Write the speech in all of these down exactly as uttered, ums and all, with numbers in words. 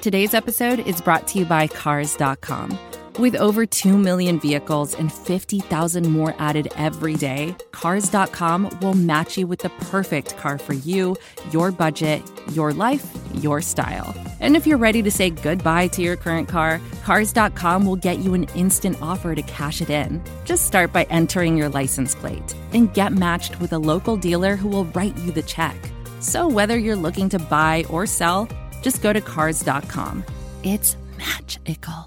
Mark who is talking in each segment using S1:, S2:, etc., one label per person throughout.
S1: Today's episode is brought to you by Cars dot com. With over two million vehicles and fifty thousand more added every day, Cars dot com will match you with the perfect car for you, your budget, your life, your style. And if you're ready to say goodbye to your current car, Cars dot com will get you an instant offer to cash it in. Just start by entering your license plate and get matched with a local dealer who will write you the check. So whether you're looking to buy or sell, just go to Cars dot com. It's magical.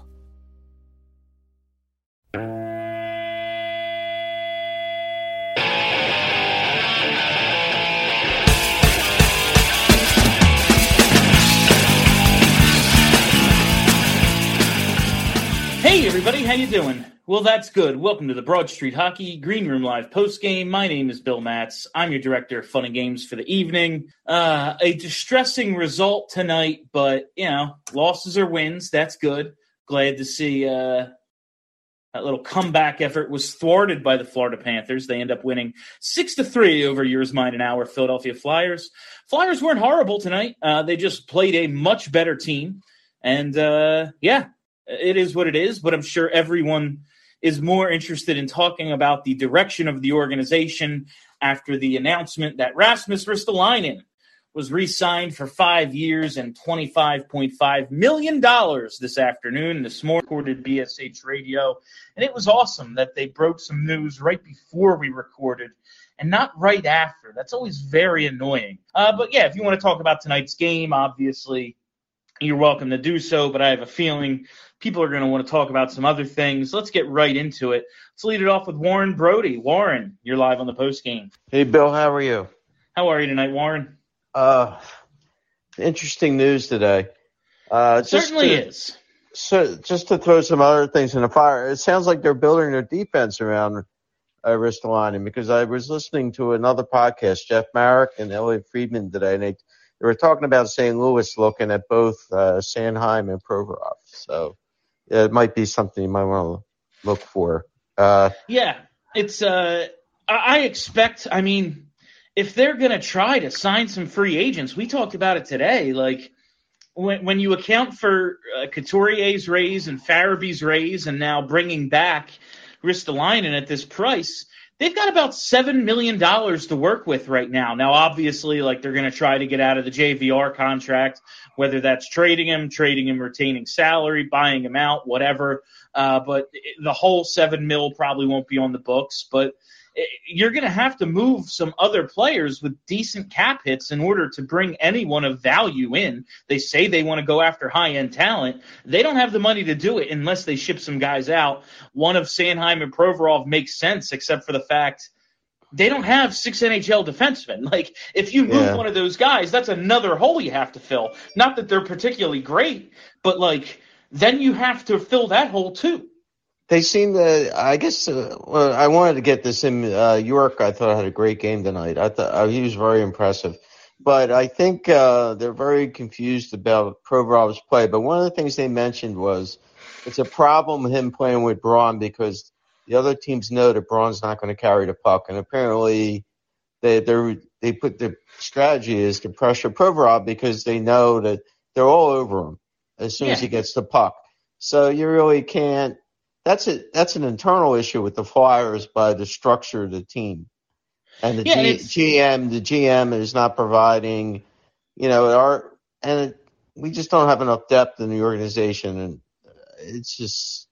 S2: Hey everybody, how you doing? Well, that's good. Welcome to the Broad Street Hockey Green Room Live postgame. My name is Bill Matz. I'm your director of fun and games for the evening. Uh, a distressing result tonight, but, you know, losses or wins, that's good. Glad to see uh, that little comeback effort was thwarted by the Florida Panthers. They end up winning six to three over yours, mine, and our Philadelphia Flyers. Flyers weren't horrible tonight. Uh, they just played a much better team. And, uh, yeah. It is what it is, but I'm sure everyone is more interested in talking about the direction of the organization after the announcement that Rasmus Ristolainen was re-signed for five years and twenty-five point five million dollars this afternoon. This morning, recorded B S H Radio, and it was awesome that they broke some news right before we recorded and not right after. That's always very annoying. Uh, but, yeah, if you want to talk about tonight's game, obviously you're welcome to do so, but I have a feeling people are going to want to talk about some other things. Let's get right into it. Let's lead it off with Warren Brody. Warren, you're live on the postgame.
S3: Hey, Bill, how are you?
S2: How are you tonight, Warren?
S3: Uh, interesting news today. Uh,
S2: it certainly to, is.
S3: So, just to throw some other things in the fire, it sounds like they're building their defense around uh, Ristolainen, because I was listening to another podcast, Jeff Marek and Elliot Friedman today, and they, they were talking about Saint Louis looking at both uh, Sanheim and Provorov. So it might be something you might want to look for. Uh,
S2: yeah, it's. Uh, I expect. I mean, if they're going to try to sign some free agents, we talked about it today. Like when when you account for uh, Couturier's raise and Farabee's raise, and now bringing back Ristolainen at this price, they've got about seven million dollars to work with right now. Now, obviously, like they're going to try to get out of the J V R contract, whether that's trading him, trading him, retaining salary, buying him out, whatever. Uh, but the whole seven mil probably won't be on the books. But you're going to have to move some other players with decent cap hits in order to bring anyone of value in. They say they want to go after high-end talent. They don't have the money to do it unless they ship some guys out. One of Sanheim and Provorov makes sense, except for the fact they don't have six N H L defensemen. Like, if you move yeah. one of those guys, that's another hole you have to fill. Not that they're particularly great, but, like, then you have to fill that hole too.
S3: They seem to, I guess, uh, well, I wanted to get this in. Uh, York, I thought, had a great game tonight. I thought uh, he was very impressive. But I think uh, they're very confused about Provorov's play. But one of the things they mentioned was it's a problem with him playing with Braun because the other teams know that Braun's not going to carry the puck. And apparently they they they put the strategy is to pressure Provorov because they know that they're all over him as soon yeah. as he gets the puck. So you really can't. That's a, that's an internal issue with the Flyers by the structure of the team. And the
S2: yeah,
S3: G, GM, the G M is not providing, you know, our, and it, we just don't have enough depth in the organization. And it's just,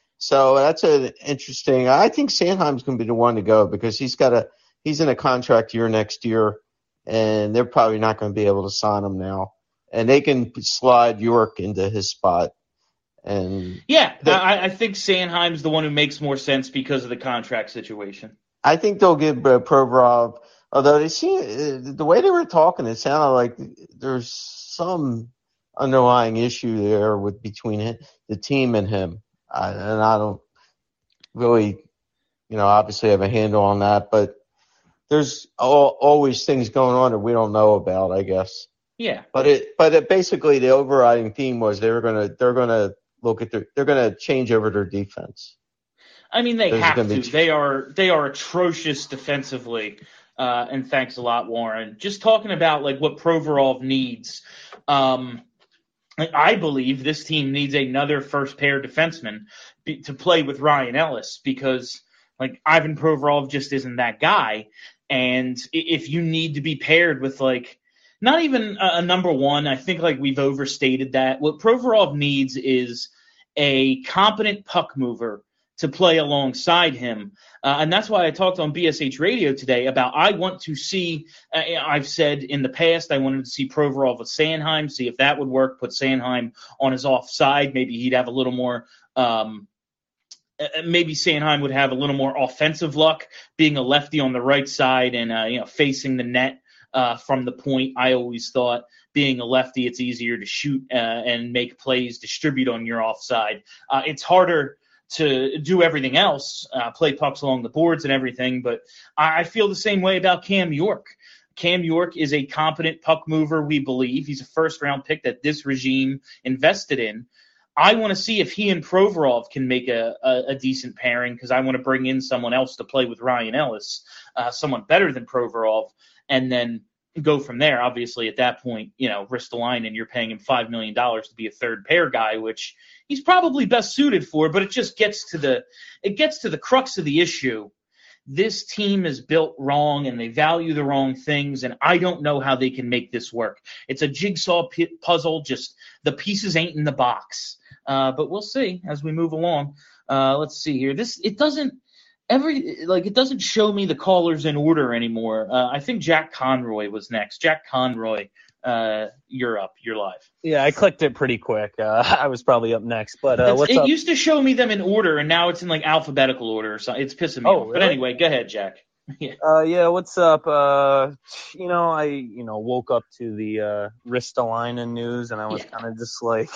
S3: so that's an interesting, I think Sanheim's going to be the one to go because he's got a, he's in a contract year next year and they're probably not going to be able to sign him now. And they can slide York into his spot. And
S2: yeah, the, I, I think Sanheim's the one who makes more sense because of the contract situation.
S3: I think they'll give uh, Provorov, although they see uh, the way they were talking, it sounded like there's some underlying issue there with between him, the team and him. Uh, and I don't really, you know, obviously have a handle on that, but there's all, always things going on that we don't know about, I guess.
S2: Yeah.
S3: But it, but it basically the overriding theme was they were gonna, they're gonna. Look at their, they're going to change over their defense.
S2: I mean, they
S3: There's
S2: have to.
S3: Be...
S2: They are they are atrocious defensively. Uh, and thanks a lot, Warren. Just talking about like what Provorov needs. Um, I believe this team needs another first pair defenseman be, to play with Ryan Ellis because, like, Ivan Provorov just isn't that guy. And if you need to be paired with, like, not even a, a number one, I think, like, we've overstated that. What Provorov needs is a competent puck mover to play alongside him. Uh, and that's why I talked on B S H Radio today about I want to see, uh, I've said in the past, I wanted to see Provorov with Sanheim, see if that would work, put Sanheim on his offside. Maybe he'd have a little more, um, maybe Sanheim would have a little more offensive luck being a lefty on the right side and, uh, you know, facing the net uh, from the point. I always thought being a lefty, it's easier to shoot uh, and make plays, distribute on your offside. Uh, it's harder to do everything else, uh, play pucks along the boards and everything, but I feel the same way about Cam York. Cam York is a competent puck mover, we believe. He's a first-round pick that this regime invested in. I want to see if he and Provorov can make a, a, a decent pairing because I want to bring in someone else to play with Ryan Ellis, uh, someone better than Provorov, and then go from there. Obviously, at that point, you know, Ristolainen, you're paying him five million dollars to be a third pair guy, which he's probably best suited for, but it just gets to the it gets to the crux of the issue. This team is built wrong and they value the wrong things, and I don't know how they can make this work. It's a jigsaw p- puzzle, just the pieces ain't in the box. Uh, but we'll see as we move along. Uh, let's see here. This it doesn't Every like it doesn't show me the callers in order anymore. Uh, I think Jack Conroy was next. Jack Conroy, uh, you're up. You're live.
S4: Yeah, I clicked it pretty quick. Uh, I was probably up next, but uh, what's
S2: it
S4: up?
S2: used to show me them in order, and now it's in like alphabetical order or something. It's pissing me
S4: Oh,
S2: off.
S4: really?
S2: But anyway, go ahead, Jack.
S4: yeah. Uh, yeah, what's up? Uh, you know, I you know woke up to the uh, Ristolainen news, and I was yeah. kind of just like.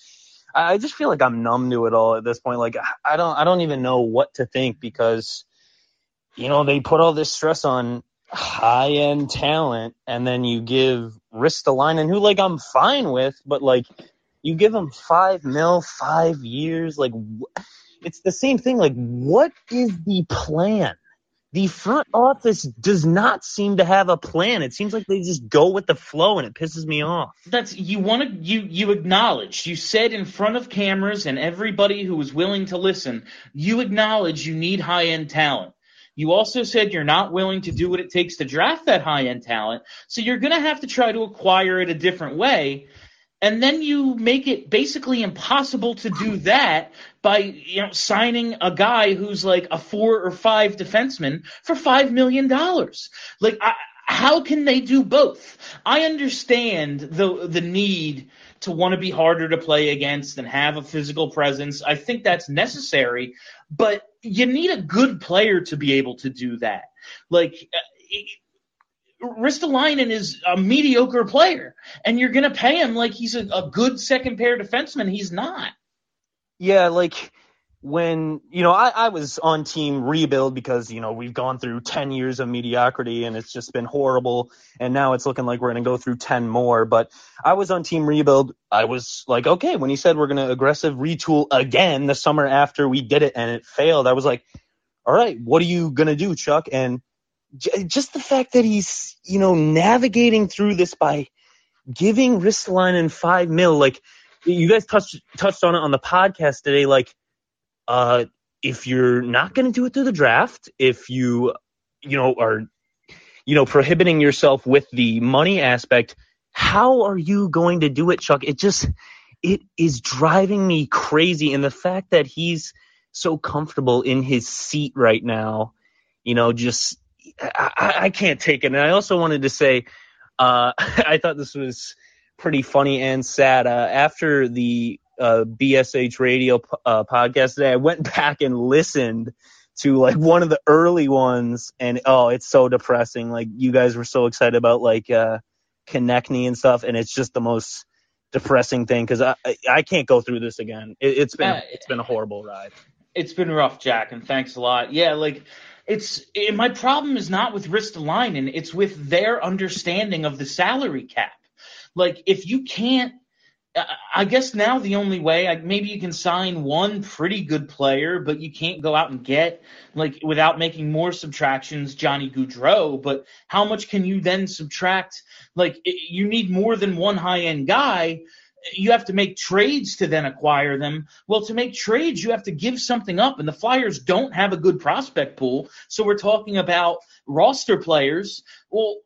S4: I just feel like I'm numb to it all at this point. Like I don't, I don't even know what to think because, you know, they put all this stress on high-end talent, and then you give Ristolainen, who like I'm fine with, but like you give him five mil, five years. Like it's the same thing. Like what is the plan? The front office does not seem to have a plan. It seems like they just go with the flow, and it pisses me off.
S2: That's you want to you you acknowledged. You said in front of cameras and everybody who was willing to listen, you acknowledge you need high-end talent. You also said you're not willing to do what it takes to draft that high-end talent, so you're going to have to try to acquire it a different way. And then you make it basically impossible to do that by, you know, signing a guy who's like a four or five defenseman for five million dollars. Like, I, how can they do both? I understand the the need to want to be harder to play against and have a physical presence. I think that's necessary, but you need a good player to be able to do that. Like, it, Ristolainen is a mediocre player, and you're going to pay him like he's a, a good second-pair defenseman. He's not.
S4: Yeah, like when, you know, I, I was on team rebuild because, you know, we've gone through ten years of mediocrity, and it's just been horrible, and now it's looking like we're going to go through ten more. But I was on team rebuild. I was like, okay, when he said we're going to aggressive retool again the summer after we did it and it failed, I was like, all right, what are you going to do, Chuck? And just the fact that he's, you know, navigating through this by giving Ristolainen five mil, like you guys touched touched on it on the podcast today. Like, uh, if you're not going to do it through the draft, if you, you know, are, you know, prohibiting yourself with the money aspect, how are you going to do it, Chuck? It just, it is driving me crazy. And the fact that he's so comfortable in his seat right now, you know, just. I, I can't take it. And I also wanted to say, uh, I thought this was pretty funny and sad. Uh, after the uh, B S H radio uh, podcast today, I went back and listened to like one of the early ones, and oh, it's so depressing. Like you guys were so excited about like uh, Konechny and stuff, and it's just the most depressing thing because I, I I can't go through this again. It, it's been uh, it's been a horrible ride.
S2: It's been rough, Jack, and thanks a lot. Yeah, like. It's it, my problem is not with Ristolainen. It's with their understanding of the salary cap. Like, if you can't, uh, I guess now the only way, I, maybe you can sign one pretty good player, but you can't go out and get, like, without making more subtractions, Johnny Gaudreau. But how much can you then subtract? Like, it, you need more than one high-end guy. you have to make trades to then acquire them. Well, to make trades, you have to give something up, and the Flyers don't have a good prospect pool. So we're talking about roster players. Well,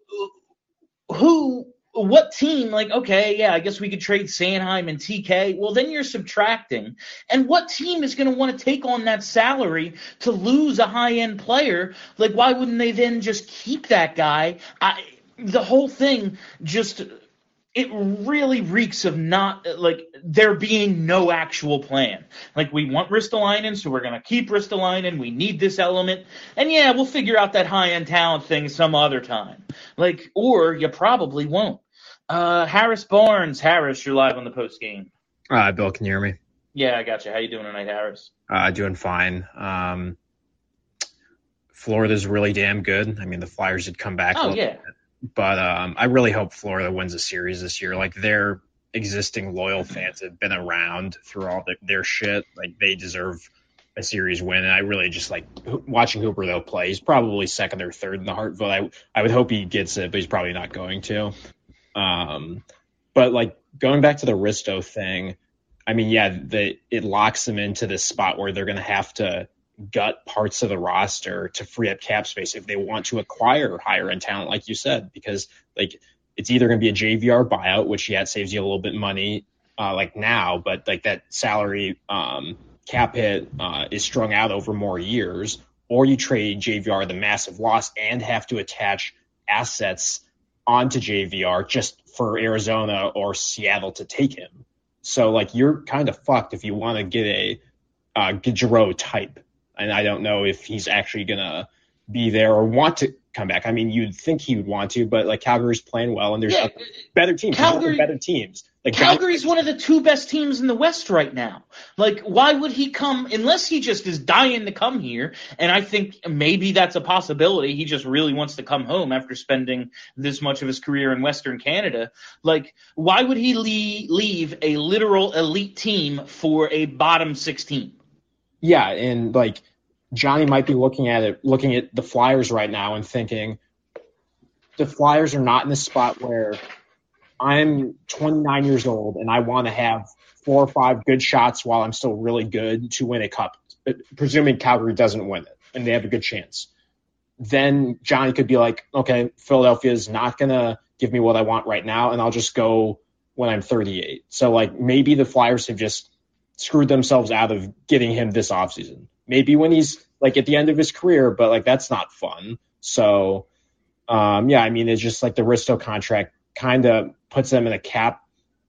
S2: who, what team, like, okay, yeah, I guess we could trade Sanheim and T K. Well, then you're subtracting. And what team is going to want to take on that salary to lose a high-end player? Like, why wouldn't they then just keep that guy? I, the whole thing just – it really reeks of not, like, there being no actual plan. Like, we want Ristolainen, so we're going to keep Ristolainen. We need this element. And, yeah, we'll figure out that high-end talent thing some other time. Like, or you probably won't. Uh, Harris Barnes. Harris, you're live on the post game.
S5: Uh, Bill, can you hear me?
S2: Yeah, I got you. How you doing tonight, Harris?
S5: Uh, doing fine. Um, Florida's really damn good. I mean, the Flyers did come back.
S2: Oh, yeah.
S5: Bit. But um, I really hope Florida wins a series this year. Like, their existing loyal fans have been around through all the, their shit. Like, they deserve a series win. And I really just like watching Hooper, though, play. He's probably second or third in the Hart vote. I, I would hope he gets it, but he's probably not going to. Um, but, like, going back to the Risto thing, I mean, yeah, the, it locks them into this spot where they're going to have to gut parts of the roster to free up cap space if they want to acquire higher end talent, like you said, because like it's either going to be a J V R buyout, which yeah, it saves you a little bit of money uh, like now, but like that salary um, cap hit uh, is strung out over more years, or you trade J V R the massive loss and have to attach assets onto J V R just for Arizona or Seattle to take him. So like you're kind of fucked if you want to get a uh, Gaudreau type. And I don't know if he's actually going to be there or want to come back. I mean, you'd think he would want to, but like Calgary's playing well, and there's
S2: yeah,
S5: better teams.
S2: Calgary,
S5: better teams. Like
S2: Calgary's one of the two best teams in the West right now. Like, why would he come unless he just is dying to come here? And I think maybe that's a possibility. He just really wants to come home after spending this much of his career in Western Canada. Like, why would he leave, leave a literal elite team for a bottom six team?
S5: Yeah, and like Johnny might be looking at it, looking at the Flyers right now and thinking the Flyers are not in a spot where I'm twenty-nine years old and I want to have four or five good shots while I'm still really good to win a cup, presuming Calgary doesn't win it and they have a good chance. Then Johnny could be like, okay, Philadelphia is not going to give me what I want right now, and I'll just go when I'm thirty-eight. So like maybe the Flyers have just screwed themselves out of getting him this offseason. Maybe when he's like at the end of his career, but like that's not fun. So um, yeah, I mean, it's just like the Risto contract kind of puts them in a cap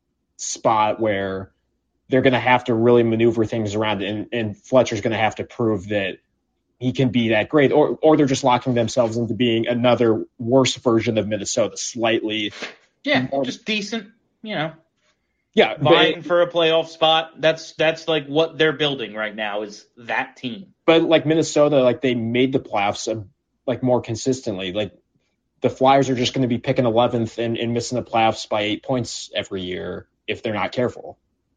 S5: spot where they're going to have to really maneuver things around, and, and Fletcher's going to have to prove that he can be that great, or or they're just locking themselves into being another worse version of Minnesota, slightly.
S2: Yeah, more, just decent, you know.
S5: Yeah,
S2: vying
S5: but,
S2: for a playoff spot. That's that's like what they're building right now is that team.
S5: But like Minnesota, like they made the playoffs uh, like more consistently. Like the Flyers are just going to be picking eleventh and, and missing the playoffs by eight points every year if they're not careful.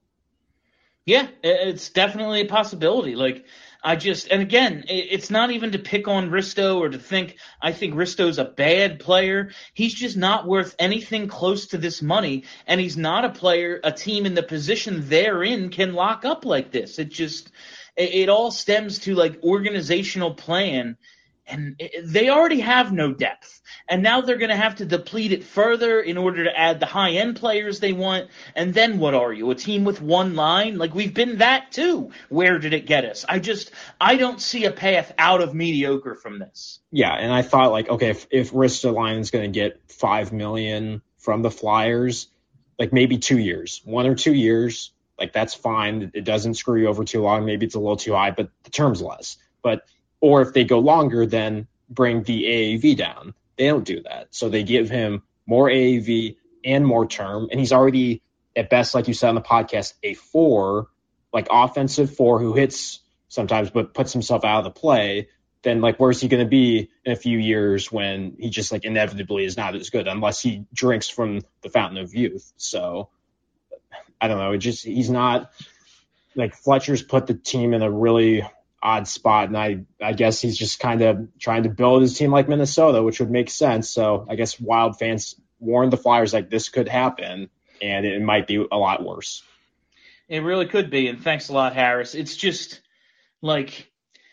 S2: Yeah, it's definitely a possibility. Like, I just, and again, it's not even to pick on Risto or to think, I think Risto's a bad player. He's just not worth anything close to this money, and he's not a player, a team in the position they're in can lock up like this. It just, it, it all stems to, like, organizational plan, and it, they already have no depth. And now they're going to have to deplete it further in order to add the high-end players they want. And then what are you, a team with one line? Like, we've been that too. Where did it get us? I just – I don't see a path out of mediocre from this.
S5: Yeah, and I thought, like, okay, if, if Ristolainen's going to get five million dollars from the Flyers, like maybe two years. One or two years, like that's fine. It doesn't screw you over too long. Maybe it's a little too high, but the term's less. But or if they go longer, then bring the A A V down. They don't do that. So they give him more A A V and more term. And he's already, at best, like you said on the podcast, a four, like offensive four who hits sometimes but puts himself out of the play. Then, like, where's he going to be in a few years when he just, like, inevitably is not as good unless he drinks from the fountain of youth? So, I don't know. It just, he's not, like, Fletcher's put the team in a really odd spot, and I, I guess he's just kind of trying to build his team like Minnesota, which would make sense. So I guess Wild fans warned the Flyers like this could happen and it might be a lot worse.
S2: It really could be, and thanks a lot, Harris. It's just like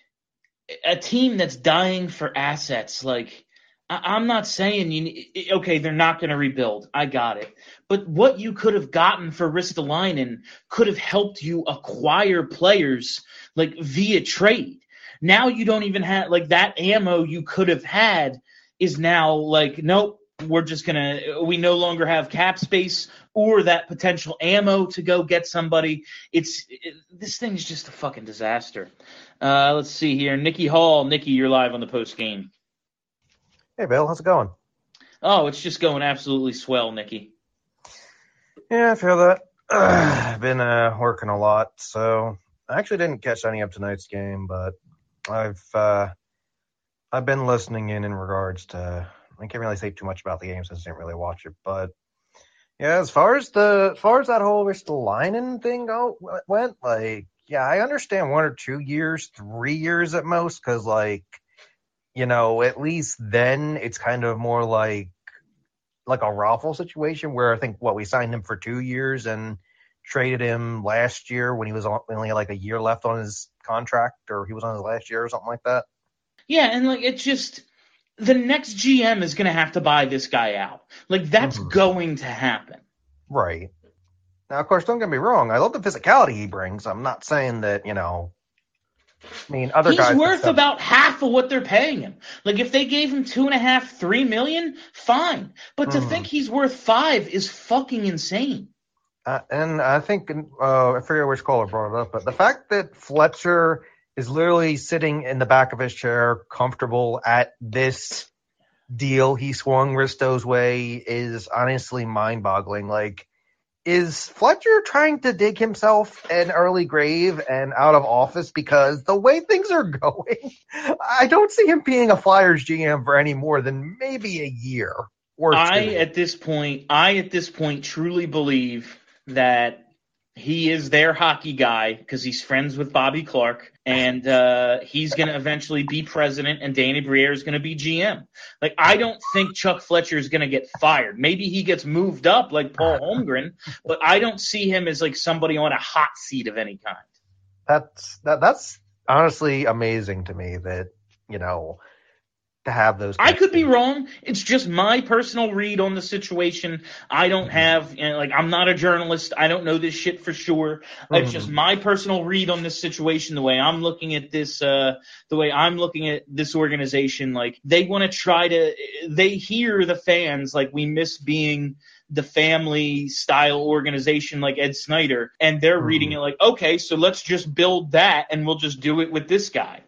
S2: a team that's dying for assets. Like, I- I'm not saying you okay, they're not going to rebuild. I got it. But what you could have gotten for Ristolainen could have helped you acquire players like via trade. Now you don't even have like that ammo you could have had is now like, nope, we're just going to – we no longer have cap space or that potential ammo to go get somebody. It's it, this thing's just a fucking disaster. Uh, let's see here. Nikki Hall. Nikki, you're live on the post game.
S6: Hey, Bill. How's it going?
S2: Oh, it's just going absolutely swell, Nikki.
S6: Yeah, I feel that. I've been uh, working a lot, so I actually didn't catch any of tonight's game, but I've uh, I've been listening in in regards to – I can't really say too much about the game since I didn't really watch it, but yeah, as far as the as far as that whole Ristolainen thing go went, like, yeah, I understand one or two years, three years at most, because like, you know, at least then it's kind of more like like a Raffle situation where I think what we signed him for two years and traded him last year when he was on, only like a year left on his contract, or he was on his last year or something like that.
S2: Yeah, and like it's just. The next G M is going to have to buy this guy out. Like, that's mm-hmm. going to happen.
S6: Right. Now, of course, don't get me wrong. I love the physicality he brings. I'm not saying that, you know, I mean, other
S2: He's
S6: guys.
S2: He's worth
S6: stuff-
S2: about half of what they're paying him. Like, if they gave him two and a half, three million, fine. But to mm-hmm. think he's worth five is fucking insane.
S6: Uh, and I think, uh, I forget which caller brought it up, but the fact that Fletcher is literally sitting in the back of his chair, comfortable at this deal he swung Risto's way is honestly mind-boggling. Like, is Fletcher trying to dig himself an early grave and out of office? Because the way things are going, I don't see him being a Flyers G M for any more than maybe a year or two.
S2: I, at this point, I, at this point, truly believe that he is their hockey guy because he's friends with Bobby Clark, and uh, he's going to eventually be president, and Danny Briere is going to be G M. Like, I don't think Chuck Fletcher is going to get fired. Maybe he gets moved up like Paul Holmgren, but I don't see him as like somebody on a hot seat of any kind.
S6: That's that. That's honestly amazing to me that, you know, to have those.
S2: I could be wrong. It's just my personal read on the situation. I don't have, you know, like, I'm not a journalist. I don't know this shit for sure. Mm-hmm. It's just my personal read on this situation, the way I'm looking at this, uh, the way I'm looking at this organization. Like, they want to try to, they hear the fans, like, we miss being the family style organization like Ed Snyder, and they're mm-hmm. reading it like, okay, so let's just build that and we'll just do it with this guy.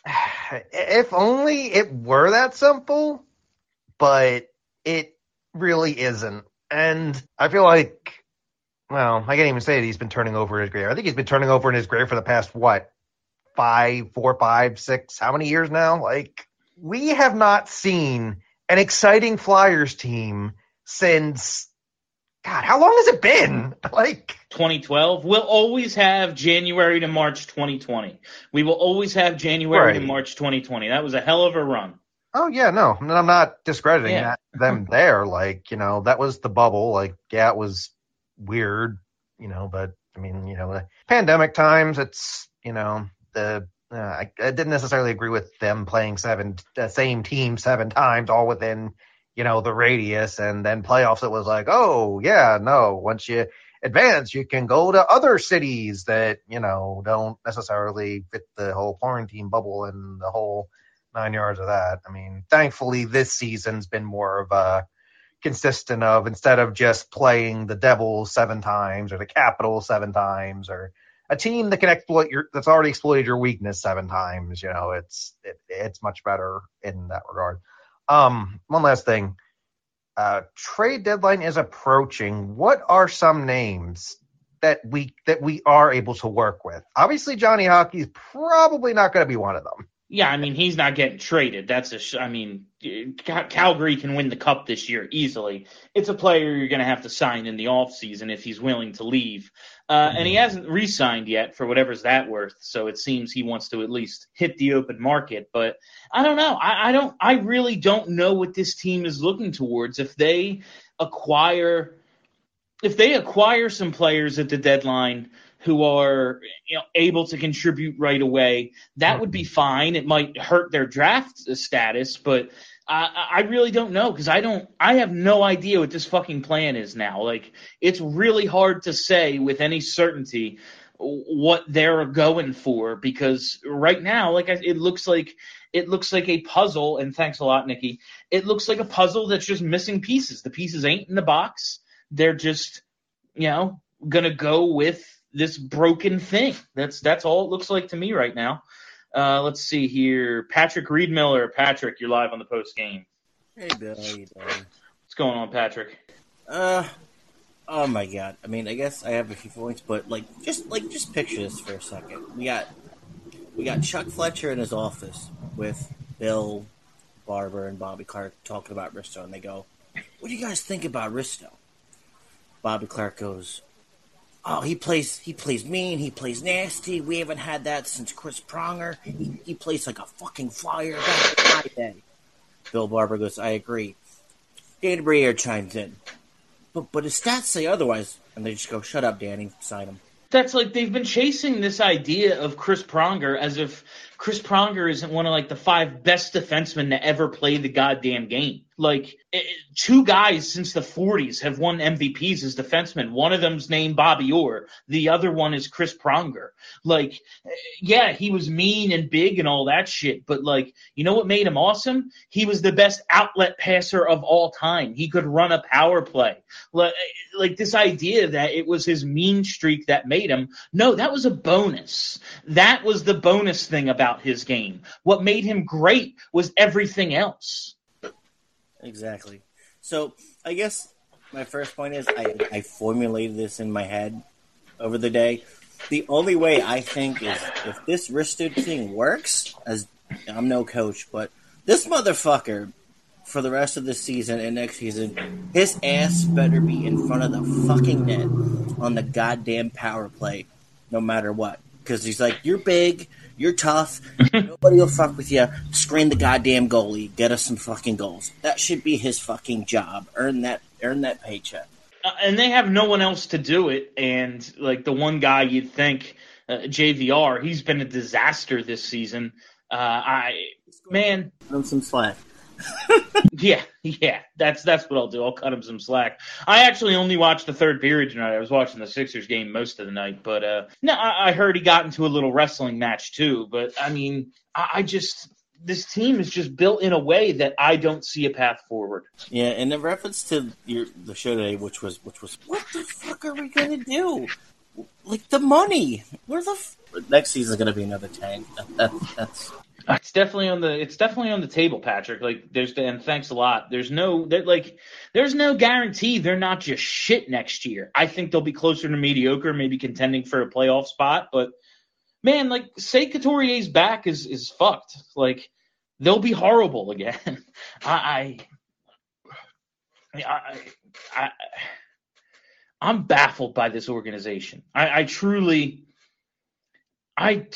S6: If only it were that simple, but it really isn't. And I feel like, well, I can't even say that he's been turning over in his grave. I think he's been turning over in his grave for the past, what, five, four, five, six, how many years now? Like, we have not seen an exciting Flyers team since, God, how long has it been? Like
S2: twenty twelve. We'll always have January to March twenty twenty. We will always have January right. to March twenty twenty. That was a hell of a run.
S6: Oh, yeah, no. I'm not discrediting yeah. that, them there. Like, you know, that was the bubble. Like, yeah, it was weird, you know, but, I mean, you know, the pandemic times, it's, you know, the uh, I, I didn't necessarily agree with them playing seven, the same team seven times all within – you know, the radius, and then playoffs, it was like, oh, yeah, no, once you advance, you can go to other cities that, you know, don't necessarily fit the whole quarantine bubble and the whole nine yards of that. I mean, thankfully, this season's been more of a consistent of, instead of just playing the Devils seven times or the Capitals seven times or a team that can exploit your, that's already exploited your weakness seven times, you know, it's, it, it's much better in that regard. Um, one last thing. Uh, trade deadline is approaching. What are some names that we that we are able to work with? Obviously, Johnny Hockey is probably not going to be one of them.
S2: Yeah, I mean, he's not getting traded. That's a. Sh- I mean, Calgary can win the cup this year easily. It's a player you're going to have to sign in the offseason if he's willing to leave. Uh, mm-hmm. And he hasn't re-signed yet for whatever's that worth. So it seems he wants to at least hit the open market. But I don't know. I, I don't. I really don't know what this team is looking towards. If they acquire if they acquire some players at the deadline who are, you know, able to contribute right away, that would be fine. It might hurt their draft status, but I, I really don't know because I don't. I have no idea what this fucking plan is now. Like, it's really hard to say with any certainty what they're going for because right now, like, it looks like it looks like a puzzle. And thanks a lot, Nikki. It looks like a puzzle that's just missing pieces. The pieces ain't in the box. They're just, you know, gonna go with this broken thing. That's that's all it looks like to me right now. Uh, let's see here. Patrick Reedmiller. Patrick, you're live on the post game.
S7: Hey, Bill. How you doing?
S2: What's going on, Patrick?
S7: Uh, oh my God. I mean, I guess I have a few points, but like, just like, just picture this for a second. We got, we got Chuck Fletcher in his office with Bill Barber and Bobby Clark talking about Risto, and they go, "What do you guys think about Risto?" Bobby Clark goes, "Oh, he plays he plays mean, he plays nasty. We haven't had that since Chris Pronger. He, he plays like a fucking flyer back in my day." Bill Barber goes, "I agree." Danny Briere chimes in. But but his stats say otherwise. And they just go, "Shut up, Danny. Sign him."
S2: That's like they've been chasing this idea of Chris Pronger as if Chris Pronger isn't one of like the five best defensemen to ever play the goddamn game. Like, it, two guys since the forties have won M V Ps as defensemen. One of them's named Bobby Orr. The other one is Chris Pronger. Like, yeah, he was mean and big and all that shit, but like, you know what made him awesome? He was the best outlet passer of all time. He could run a power play. Like, like this idea that it was his mean streak that made him. No, that was a bonus. That was the bonus thing about his game. What made him great was everything else.
S7: Exactly. So I guess my first point is I, I formulated this in my head over the day. The only way I think is if this Risto thing works, as I'm no coach, but this motherfucker for the rest of the season and next season, his ass better be in front of the fucking net on the goddamn power play, no matter what. Because he's like, "You're big, you're tough, nobody will fuck with you. Screen the goddamn goalie, get us some fucking goals." That should be his fucking job. Earn that, earn that paycheck.
S2: Uh, and they have no one else to do it. And like the one guy you'd think, uh, J V R, he's been a disaster this season. Uh, I man,
S7: Give him some slack.
S2: yeah, yeah, that's that's what I'll do. I'll cut him some slack. I actually only watched the third period tonight. I was watching the Sixers game most of the night, but uh, no, I, I heard he got into a little wrestling match too. But I mean, I, I just this team is just built in a way that I don't see a path forward.
S7: Yeah, and in reference to your the show today, which was which was what the fuck are we gonna do? Like the money, where the f- next season's gonna be another tank. That, that, that's.
S2: It's definitely on the it's definitely on the table, Patrick. Like there's and thanks a lot. There's no like there's no guarantee they're not just shit next year. I think they'll be closer to mediocre, maybe contending for a playoff spot. But man, like say Couturier's back is is fucked. Like they'll be horrible again. I, I I I I'm baffled by this organization. I, I truly I.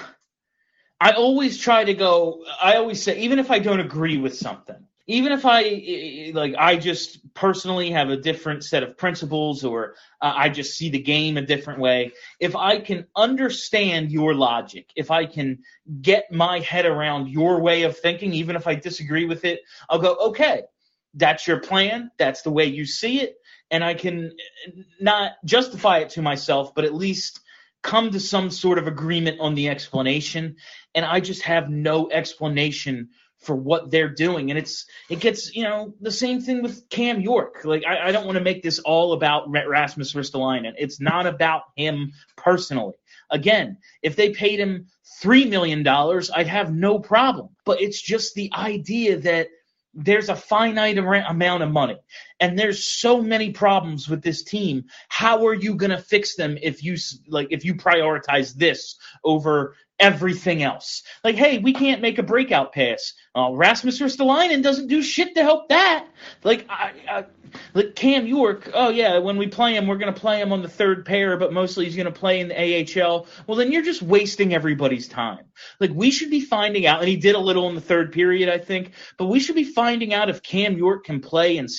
S2: I always try to go, I always say, even if I don't agree with something, even if I, like, I just personally have a different set of principles or uh, I just see the game a different way, if I can understand your logic, if I can get my head around your way of thinking, even if I disagree with it, I'll go, okay, that's your plan, that's the way you see it, and I can not justify it to myself, but at least come to some sort of agreement on the explanation, and I just have no explanation for what they're doing. And it's it gets, you know, the same thing with Cam York. Like, I, I don't want to make this all about Rasmus Ristolainen. It's not about him personally. Again, if they paid him three million dollars, I'd have no problem. But it's just the idea that there's a finite amount of money, and there's so many problems with this team. How are you going to fix them if you like if you prioritize this over everything else? Like, hey, we can't make a breakout pass. Uh, Rasmus Ristolainen doesn't do shit to help that. Like, I, I, like Cam York, oh yeah, when we play him, we're going to play him on the third pair, but mostly he's going to play in the A H L. Well, then you're just wasting everybody's time. Like, we should be finding out, and he did a little in the third period, I think, but we should be finding out if Cam York can play and salvage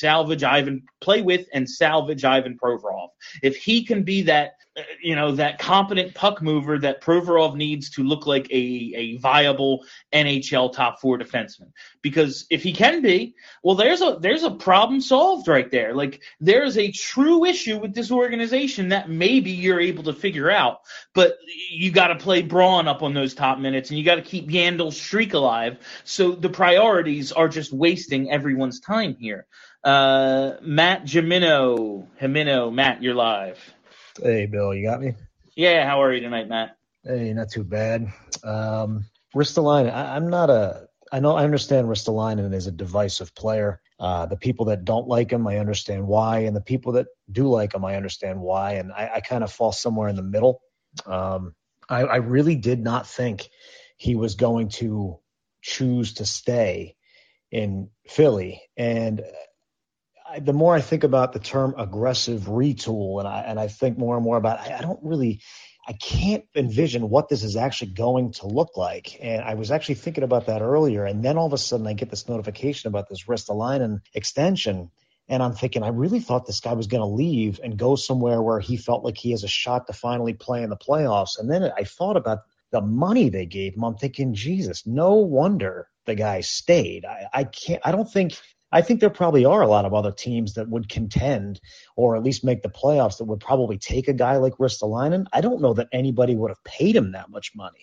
S2: Ivan, play with and salvage Ivan Provorov. If he can be that, you know, that competent puck mover that Provorov needs to look like a, a viable N H L top four defenseman. Because if he can be, well, there's a there's a problem solved right there. Like, there's a true issue with this organization that maybe you're able to figure out, but you got to play Braun up on those top minutes, and you got to keep Yandel's streak alive. So the priorities are just wasting everyone's time here. Uh, Matt Jimino, Jimino, Matt, you're live.
S8: Hey, Bill, you got me?
S2: Yeah, how are you tonight, Matt?
S8: Hey, not too bad. Um, Ristolainen, I, I'm not a – I know I understand Ristolainen is a divisive player. Uh, the people that don't like him, I understand why, and the people that do like him, I understand why, and I, I kind of fall somewhere in the middle. Um, I, I really did not think he was going to choose to stay in Philly, and – I, the more I think about the term aggressive retool, and I and I think more and more about, I, I don't really, I can't envision what this is actually going to look like. And I was actually thinking about that earlier, and then all of a sudden I get this notification about this Ristolainen extension, and I'm thinking, I really thought this guy was going to leave and go somewhere where he felt like he has a shot to finally play in the playoffs. And then I thought about the money they gave him. I'm thinking, Jesus, no wonder the guy stayed. I, I can't, I don't think. I think there probably are a lot of other teams that would contend or at least make the playoffs that would probably take a guy like Ristolainen. I don't know that anybody would have paid him that much money.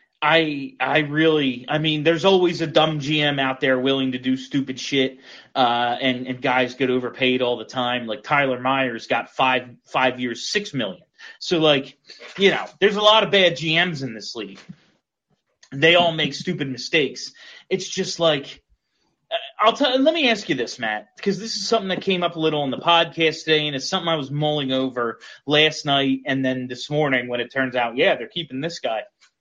S2: I I really, I mean, there's always a dumb G M out there willing to do stupid shit, uh, and, and guys get overpaid all the time. Like Tyler Myers got five five years, six million. So, like, you know, there's a lot of bad G Ms in this league. They all make stupid mistakes. It's just like, I'll tell. Let me ask you this, Matt, because this is something that came up a little on the podcast today, and it's something I was mulling over last night and then this morning when it turns out, yeah, they're keeping this guy.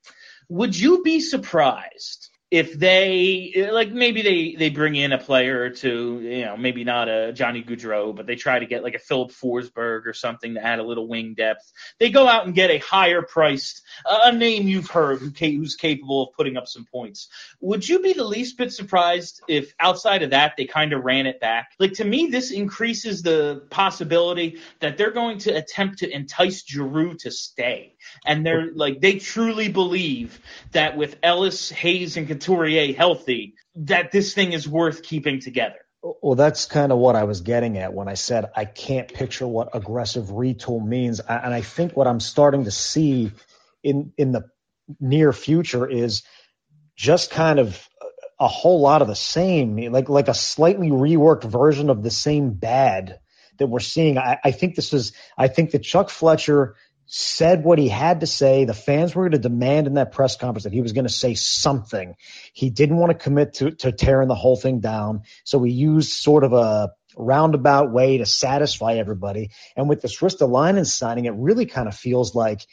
S2: Would you be surprised if they, like, maybe they, they bring in a player or two, you know, maybe not a Johnny Gaudreau, but they try to get like a Philip Forsberg or something to add a little wing depth. They go out and get a higher priced, uh, a name you've heard who, who's capable of putting up some points. Would you be the least bit surprised if outside of that they kind of ran it back? Like, to me, this increases the possibility that they're going to attempt to entice Giroux to stay. And they're like, they truly believe that with Ellis, Hayes, and Couturier healthy, that this thing is worth keeping together.
S8: Well, that's kind of what I was getting at when I said I can't picture what aggressive retool means. And I think what I'm starting to see in in the near future is just kind of a whole lot of the same, like like a slightly reworked version of the same bad that we're seeing. I, I think this is – I think that Chuck Fletcher – said what he had to say. The fans were going to demand in that press conference that he was going to say something. He didn't want to commit to, to tearing the whole thing down. So he used sort of a roundabout way to satisfy everybody. And with this Ristolainen signing, it really kind of feels like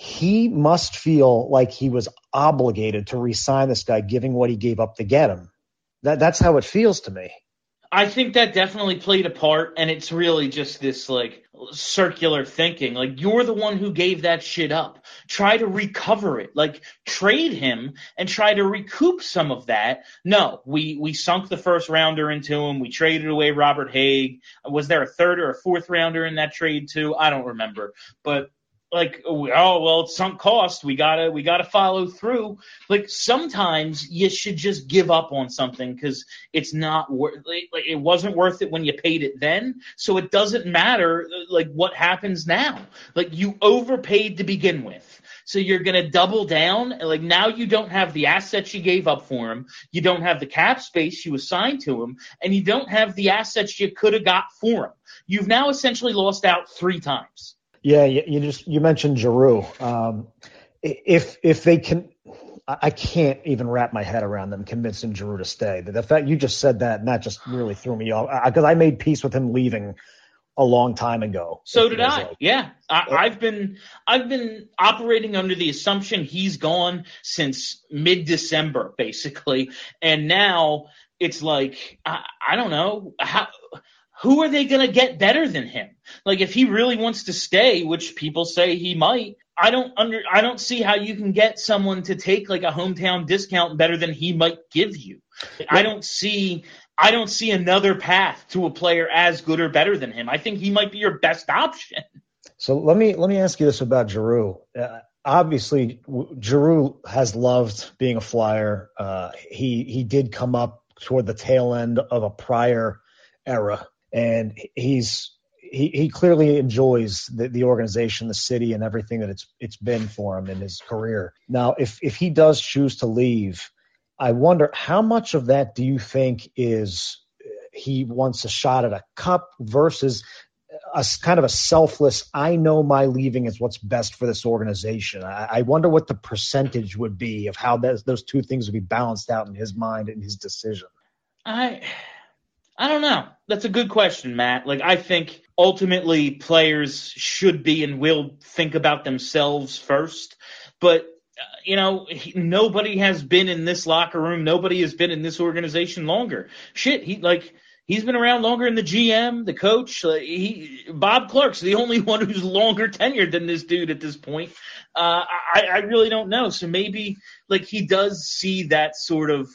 S8: he must feel like he was obligated to re-sign this guy, giving what he gave up to get him. That, that's how it feels to me.
S2: I think that definitely played a part, and it's really just this, like, circular thinking. Like, you're the one who gave that shit up. Try to recover it. Like, trade him and try to recoup some of that. No, we, we sunk the first rounder into him. We traded away Robert Haig. Was there a third or a fourth rounder in that trade, too? I don't remember. But, like, oh, well, it's sunk cost. We gotta, we gotta follow through. Like, sometimes you should just give up on something because it's not worth. Like, it wasn't worth it when you paid it then, so it doesn't matter. Like, what happens now? Like, you overpaid to begin with, so you're gonna double down. Like, now you don't have the assets you gave up for him. You don't have the cap space you assigned to him, and you don't have the assets you could have got for him. You've now essentially lost out three times.
S8: Yeah, you, you just you mentioned Giroux. Um, if if they can, I can't even wrap my head around them convincing Giroux to stay. The, the fact you just said that, and that just really threw me off because I, I made peace with him leaving a long time ago.
S2: So did I. Like. Yeah, I, I've been I've been operating under the assumption he's gone since mid-December, basically, and now it's like I, I don't know how. Who are they going to get better than him? Like, if he really wants to stay, which people say he might, I don't under I don't see how you can get someone to take like a hometown discount better than he might give you. I don't see I don't see another path to a player as good or better than him. I think he might be your best option.
S8: So let me let me ask you this about Giroux. Uh, obviously, Giroux has loved being a Flyer. Uh, he he did come up toward the tail end of a prior era, and he's he he clearly enjoys the, the organization, the city, and everything that it's it's been for him in his career. Now, if if he does choose to leave, I wonder how much of that do you think is he wants a shot at a cup versus a kind of a selfless, I know my leaving is what's best for this organization. I, I wonder what the percentage would be of how that, those two things would be balanced out in his mind and his decision.
S2: I I don't know. That's a good question, Matt. Like, I think ultimately players should be and will think about themselves first. But, uh, you know, he, nobody has been in this locker room. Nobody has been in this organization longer. Shit, he like – he's been around longer than the G M, the coach. Uh, he, Bob Clark's the only one who's longer tenured than this dude at this point. Uh, I, I really don't know. So maybe like he does see that sort of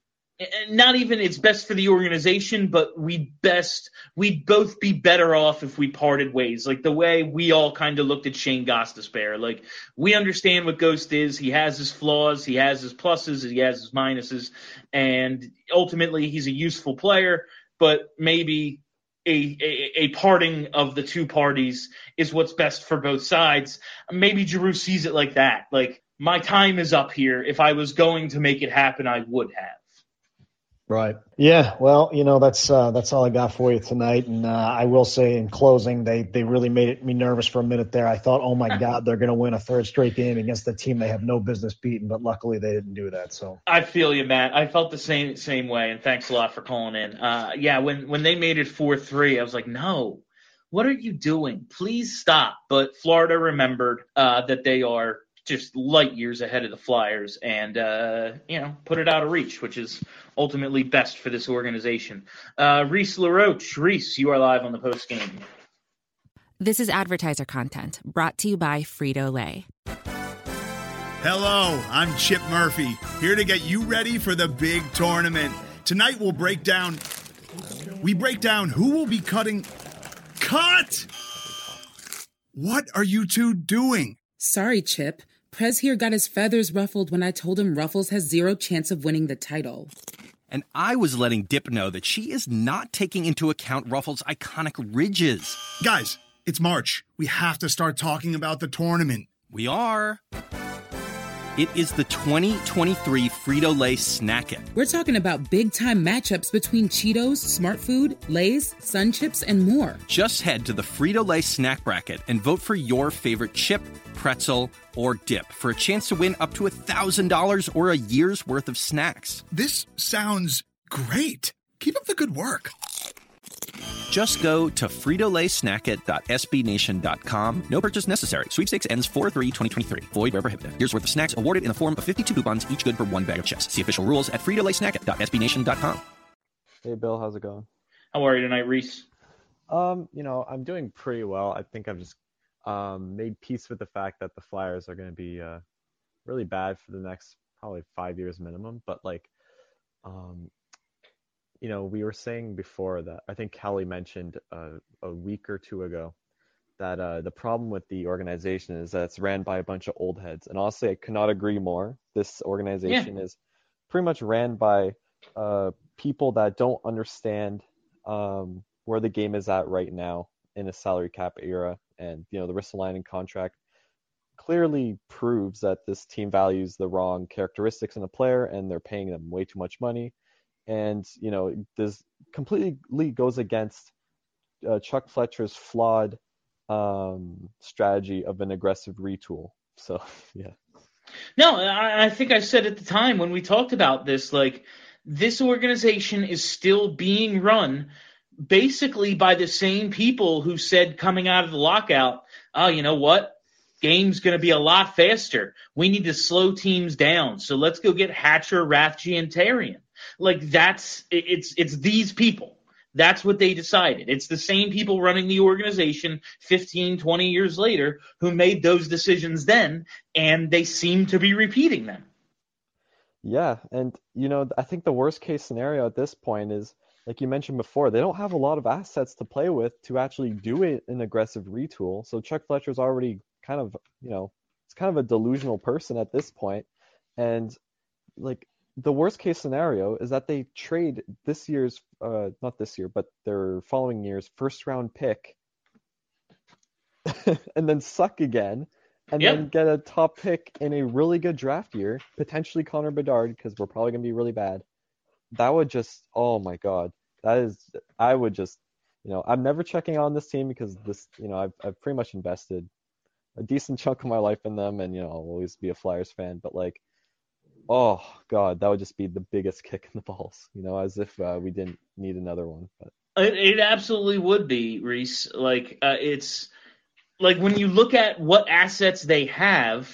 S2: not even it's best for the organization, but we best we'd both be better off if we parted ways. Like the way we all kind of looked at Shane Gostisbehere. Like we understand what Ghost is. He has his flaws, he has his pluses, he has his minuses, and ultimately he's a useful player. But maybe a, a a parting of the two parties is what's best for both sides. Maybe Giroux sees it like that. Like, my time is up here. If I was going to make it happen, I would have.
S8: Right. Yeah. Well, you know, that's uh, that's all I got for you tonight. And uh, I will say in closing, they they really made it, me nervous for a minute there. I thought, oh, my God, they're going to win a third straight game against the team they have no business beating. But luckily they didn't do that. So
S2: I feel you, Matt. I felt the same same way. And thanks a lot for calling in. Uh, yeah, when, when they made it four three, I was like, no, what are you doing? Please stop. But Florida remembered uh, that they are just light years ahead of the Flyers and, uh, you know, put it out of reach, which is ultimately best for this organization. Uh, Reese LaRoche. Reese, you are live on the post game.
S1: This is advertiser content brought to you by Frito-Lay.
S9: Hello, I'm Chip Murphy, here to get you ready for the big tournament. Tonight we'll break down, we break down who will be cutting, cut! What are you two doing?
S10: Sorry, Chip. Prez here got his feathers ruffled when I told him Ruffles has zero chance of winning the title.
S11: And I was letting Dip know that she is not taking into account Ruffles' iconic ridges.
S9: Guys, it's March. We have to start talking about the tournament.
S11: We are. It is the twenty twenty-three Frito-Lay Snack It.
S10: We're talking about big-time matchups between Cheetos, Smart Food, Lay's, Sun Chips, and more.
S11: Just head to the Frito-Lay Snack Bracket and vote for your favorite chip, pretzel, or dip for a chance to win up to one thousand dollars or a year's worth of snacks.
S9: This sounds great. Keep up the good work.
S11: Just go to Frito Lay Snack It dot S B Nation dot com. No purchase necessary. Sweepstakes ends four three twenty twenty-three. Void where prohibited. Here's worth of snacks awarded in the form of fifty-two coupons, each good for one bag of chips. See official rules at Frito Lay Snack It dot S B Nation dot com.
S12: Hey, Bill. How's it going?
S2: How are you tonight, Reese?
S12: Um, you know, I'm doing pretty well. I think I've just um, made peace with the fact that the Flyers are going to be uh, really bad for the next probably five years minimum. But, like, um, you know, we were saying before that I think Kelly mentioned uh, a week or two ago that uh, the problem with the organization is that it's ran by a bunch of old heads. And honestly, I could not agree more. This organization yeah. is pretty much ran by uh, people that don't understand um, where the game is at right now in a salary cap era. And, you know, the Ristolainen contract clearly proves that this team values the wrong characteristics in a player and they're paying them way too much money. And, you know, this completely goes against uh, Chuck Fletcher's flawed um, strategy of an aggressive retool. So, yeah.
S2: No, I, I think I said at the time when we talked about this, like, this organization is still being run basically by the same people who said coming out of the lockout, oh, you know what? Game's going to be a lot faster. We need to slow teams down. So let's go get Hatcher, Rathje, and Therrien. Like, that's it's it's these people. That's what they decided. It's the same people running the organization fifteen, twenty years later who made those decisions then, and they seem to be repeating them.
S12: Yeah, and, you know, I think the worst case scenario at this point is like you mentioned before, they don't have a lot of assets to play with to actually do it an aggressive retool. So Chuck Fletcher's already kind of, you know, it's kind of a delusional person at this point. And like the worst case scenario is that they trade this year's, uh, not this year, but their following year's first round pick and then suck again. And yep. then get a top pick in a really good draft year, potentially Connor Bedard, because we're probably going to be really bad. That would just, oh my God. That is, I would just, you know, I'm never checking on this team because this, you know, I've, I've pretty much invested a decent chunk of my life in them, and, you know, I'll always be a Flyers fan, but like, oh God, that would just be the biggest kick in the balls, you know, as if uh, we didn't need another one. But
S2: It, it absolutely would be, Reese. Like, uh, it's, Like, when you look at what assets they have,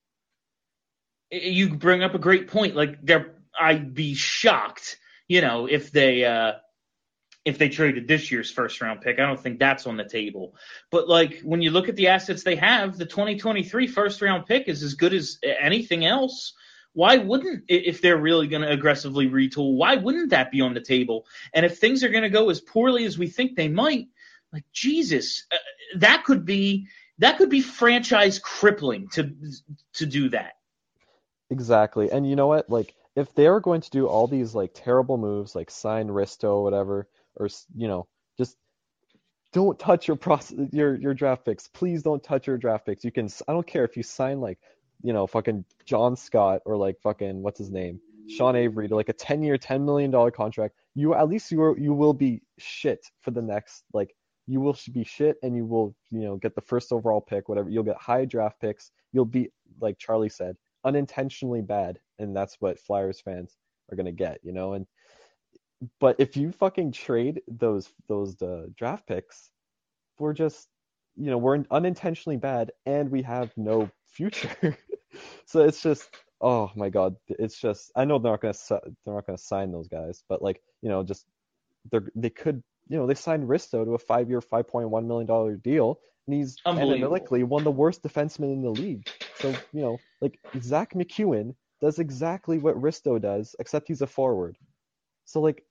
S2: you bring up a great point. Like, they're, I'd be shocked, you know, if they uh, if they traded this year's first-round pick. I don't think that's on the table. But, like, when you look at the assets they have, the twenty twenty-three first-round pick is as good as anything else. Why wouldn't, if they're really going to aggressively retool, why wouldn't that be on the table? And if things are going to go as poorly as we think they might, like, Jesus, uh, that could be that could be franchise crippling to to do that.
S12: Exactly. And you know what? Like, if they're going to do all these like terrible moves, like sign Risto or whatever, or, you know, just don't touch your process, your your draft picks. Please don't touch your draft picks. You can, I don't care if you sign like, you know, fucking John Scott or like fucking what's his name, Sean Avery, to like a ten-year, ten million dollars contract. You at least you are, you will be shit for the next like. You will be shit, and you will, you know, get the first overall pick, whatever. You'll get high draft picks. You'll be, like Charlie said, unintentionally bad, and that's what Flyers fans are gonna get, you know. And but if you fucking trade those those uh, draft picks, we're just, you know, we're unintentionally bad, and we have no future. So it's just, oh my God, it's just. I know they're not gonna they're not gonna sign those guys, but like, you know, just they're they could. You know, they signed Risto to a five-year, five point one million dollars deal, and he's analytically one of the worst defensemen in the league. So, you know, like, Zach McEwen does exactly what Risto does, except he's a forward. So, like,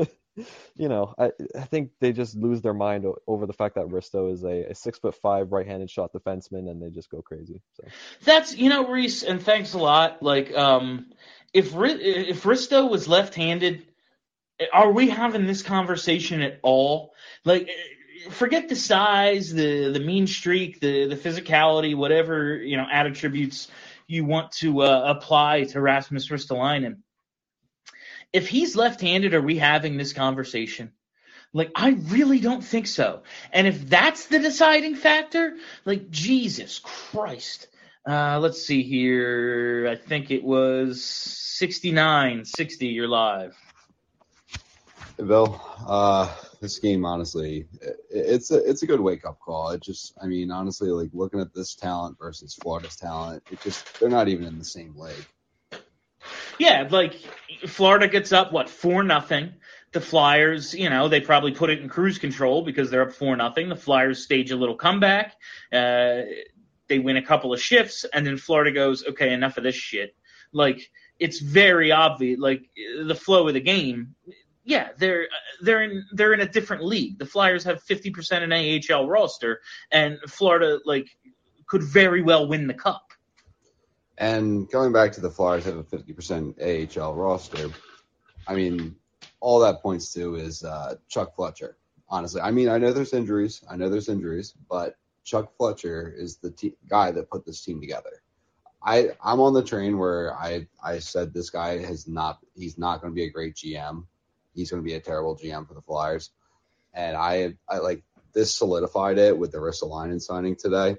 S12: you know, I, I think they just lose their mind o- over the fact that Risto is a, a six-foot-five right-handed shot defenseman, and they just go crazy. So
S2: That's, you know, Reese, and thanks a lot. Like, um, if if Risto was left-handed, are we having this conversation at all? Like, forget the size, the the mean streak, the the physicality, whatever, you know, attributes you want to uh, apply to Rasmus Ristolainen. If he's left-handed, are we having this conversation? Like, I really don't think so. And if that's the deciding factor, like, Jesus Christ. Uh, let's see here. I think it was sixty-nine sixty, you're live.
S13: Hey, Bill, uh, this game, honestly, it, it's a it's a good wake up call. It just, I mean, honestly, like looking at this talent versus Florida's talent, it just they're not even in the same league.
S2: Yeah, like Florida gets up what four nothing. The Flyers, you know, they probably put it in cruise control because they're up four nothing. The Flyers stage a little comeback. Uh, they win a couple of shifts, and then Florida goes, okay, enough of this shit. Like, it's very obvious. Like the flow of the game. Yeah, they're they're in they're in a different league. The Flyers have fifty percent an A H L roster, and Florida like could very well win the cup.
S13: And going back to the Flyers have a fifty percent A H L roster. I mean, all that points to is uh, Chuck Fletcher. Honestly, I mean, I know there's injuries. I know there's injuries, but Chuck Fletcher is the te- guy that put this team together. I I'm on the train where I I said this guy has not he's not going to be a great G M. He's going to be a terrible G M for the Flyers. And I, I like this solidified it with the Ristolainen signing today.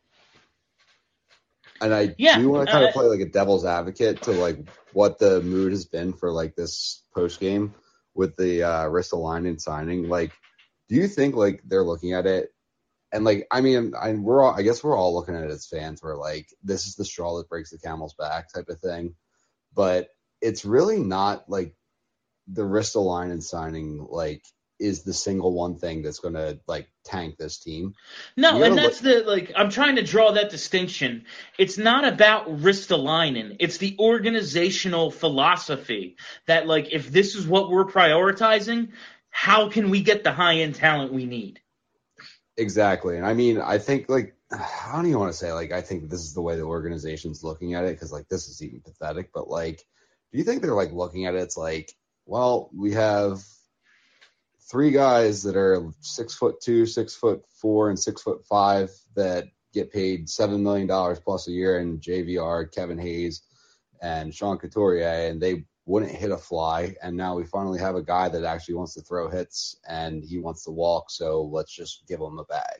S13: And I
S2: yeah,
S13: do want to kind
S2: uh,
S13: of play like a devil's advocate to like what the mood has been for like this post game with the uh, Ristolainen signing. Like, do you think like they're looking at it and like, I mean, I, we're all, I guess we're all looking at it as fans where like, this is the straw that breaks the camel's back type of thing. But it's really not like, the Ristolainen signing, like, is the single one thing that's going to like tank this team.
S2: No, and that's look- the like I'm trying to draw that distinction. It's not about Ristolainen. It's the organizational philosophy that like if this is what we're prioritizing, how can we get the high end talent we need?
S13: Exactly. And I mean, I think like I don't even want to say like I think this is the way the organization's looking at it because like this is even pathetic. But like, do you think they're like looking at it? It's like, well, we have three guys that are six foot two, six foot four, and six foot five that get paid seven million dollars plus a year in J V R, Kevin Hayes, and Sean Couturier, and they wouldn't hit a fly. And now we finally have a guy that actually wants to throw hits and he wants to walk. So let's just give him a bag.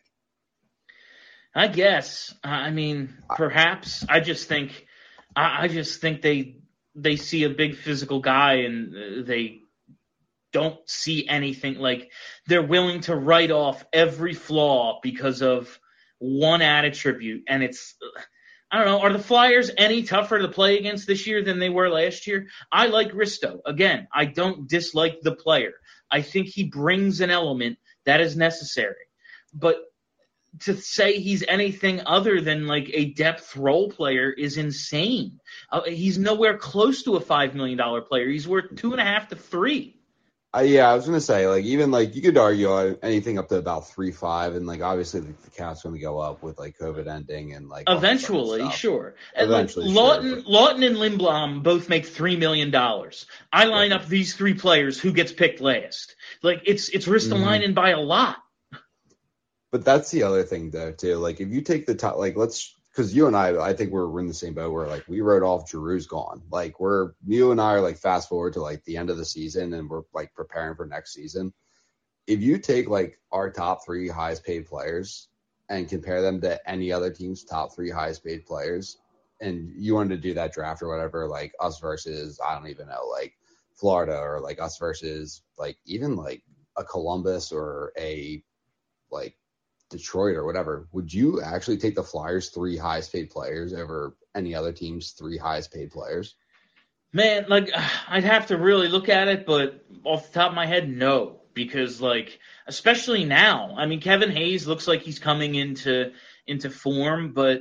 S2: I guess. I mean, perhaps. I just think, I just think they they see a big physical guy and they don't see anything. Like they're willing to write off every flaw because of one attribute. And it's, I don't know, are the Flyers any tougher to play against this year than they were last year? I like Risto. Again, I don't dislike the player. I think he brings an element that is necessary. But to say he's anything other than like a depth role player is insane. Uh, he's nowhere close to a five million dollars player. He's worth two and a half to three.
S13: Uh, yeah, I was gonna say, like, even like you could argue anything up to about three five, and like obviously the, the cap's gonna go up with like COVID ending and like
S2: eventually, sure. And
S13: eventually,
S2: like, Lawton,
S13: sure, but...
S2: Lawton and Lindblom both make three million dollars. I line yeah. up these three players. Who gets picked last? Like it's it's Ristolainen mm-hmm. by a lot.
S13: But that's the other thing though too. Like if you take the top, like let's. Because you and I, I think we're, we're in the same boat where, like, we wrote off Giroux's gone. Like, we're – you and I are, like, fast forward to, like, the end of the season and we're, like, preparing for next season. If you take, like, our top three highest paid players and compare them to any other team's top three highest paid players, and you wanted to do that draft or whatever, like, us versus, I don't even know, like, Florida or, like, us versus, like, even, like, a Columbus or a, like, Detroit or whatever, would you actually take the Flyers' three highest paid players over any other team's three highest paid players?
S2: Man, like, I'd have to really look at it, but off the top of my head, no. Because, like, especially now, I mean, Kevin Hayes looks like he's coming into into form, but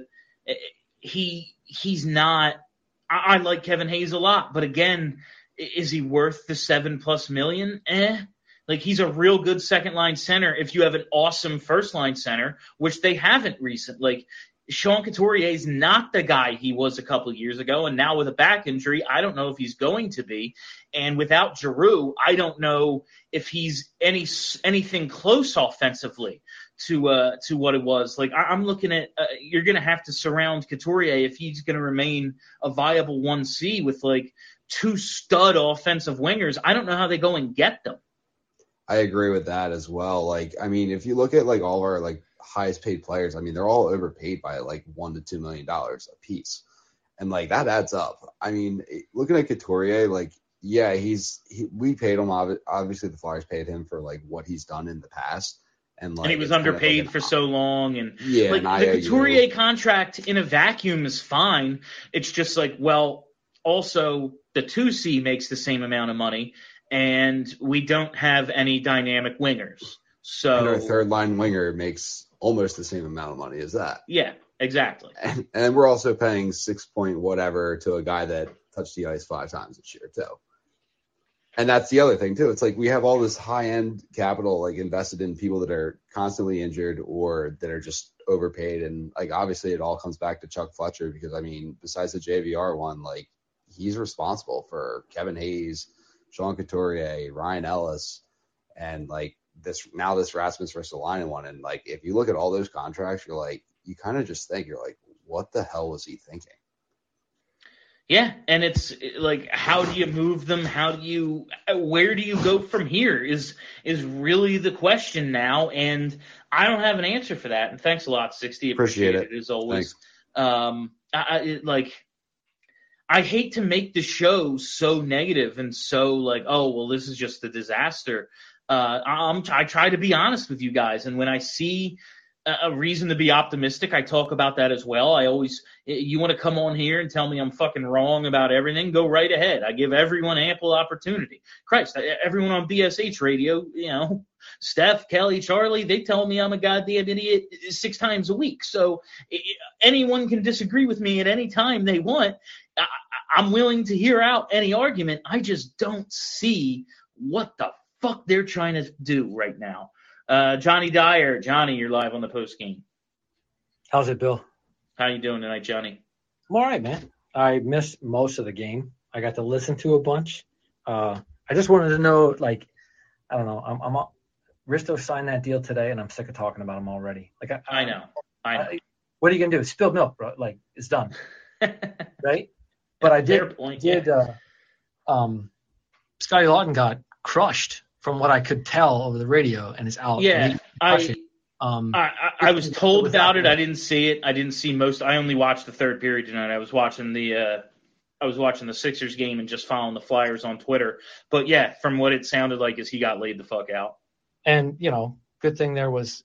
S2: he he's not – I like Kevin Hayes a lot. But, again, is he worth the seven-plus million? Eh. Like, he's a real good second-line center if you have an awesome first-line center, which they haven't recently. Like, Sean Couturier is not the guy he was a couple of years ago, and now with a back injury, I don't know if he's going to be. And without Giroux, I don't know if he's any anything close offensively to uh, to what it was. Like, I, I'm looking at uh, – you're going to have to surround Couturier if he's going to remain a viable one C with, like, two stud offensive wingers. I don't know how they go and get them.
S13: I agree with that as well. Like, I mean, if you look at like all of our like highest paid players, I mean, they're all overpaid by like one to two million dollars a piece, and like that adds up. I mean, looking at Couturier, like, yeah, he's he, we paid him. Obviously, the Flyers paid him for like what he's done in the past, and like
S2: and he was underpaid kind of like for so long. And
S13: yeah,
S2: like
S13: and
S2: the Couturier contract in a vacuum is fine. It's just like, well, also the two C makes the same amount of money. And we don't have any dynamic wingers. So
S13: and our third line winger makes almost the same amount of money as that.
S2: Yeah, exactly.
S13: And, and we're also paying six point whatever to a guy that touched the ice five times this year too. And that's the other thing too. It's like we have all this high end capital like invested in people that are constantly injured or that are just overpaid. And like obviously it all comes back to Chuck Fletcher because I mean besides the J V R one, like he's responsible for Kevin Hayes, Sean Couturier, Ryan Ellis, and like this now this Rasmus Ristolainen one. And like if you look at all those contracts, you're like you kind of just think you're like, what the hell was he thinking?
S2: Yeah, and it's like, how do you move them? How do you, where do you go from here? Is is really the question now, and I don't have an answer for that. And thanks a lot, sixty.
S13: Appreciate, Appreciate it.
S2: it as always. Um, I, it, like. I hate to make the show so negative and so like, oh, well, this is just a disaster. Uh, I'm, I try to be honest with you guys. And when I see a reason to be optimistic. I talk about that as well. I always, you want to come on here and tell me I'm fucking wrong about everything, go right ahead. I give everyone ample opportunity. Christ, everyone on B S H radio, you know, Steph, Kelly, Charlie, they tell me I'm a goddamn idiot six times a week. So anyone can disagree with me at any time they want. I'm willing to hear out any argument. I just don't see what the fuck they're trying to do right now. Uh, Johnny Dyer. Johnny, you're live on the post game.
S14: How's it, Bill?
S2: How you doing tonight, Johnny?
S14: I'm all right, man. I missed most of the game. I got to listen to a bunch. Uh, I just wanted to know, like, I don't know. I'm, I'm Risto signed that deal today, and I'm sick of talking about him already. Like, I,
S2: I know. I know.
S14: I, what are you gonna do? Spill milk, bro? Like, it's done, right? But I did.
S2: Point,
S14: did
S2: yeah.
S14: uh, um, Scotty Lawton got crushed. From what I could tell over the radio, and is out.
S2: Yeah, I,
S14: um,
S2: I, I, I was told about it. I didn't see it. I didn't see most. I only watched the third period tonight. I was watching the, uh, I was watching the Sixers game and just following the Flyers on Twitter. But yeah, from what it sounded like, is he got laid the fuck out.
S14: And you know, good thing there was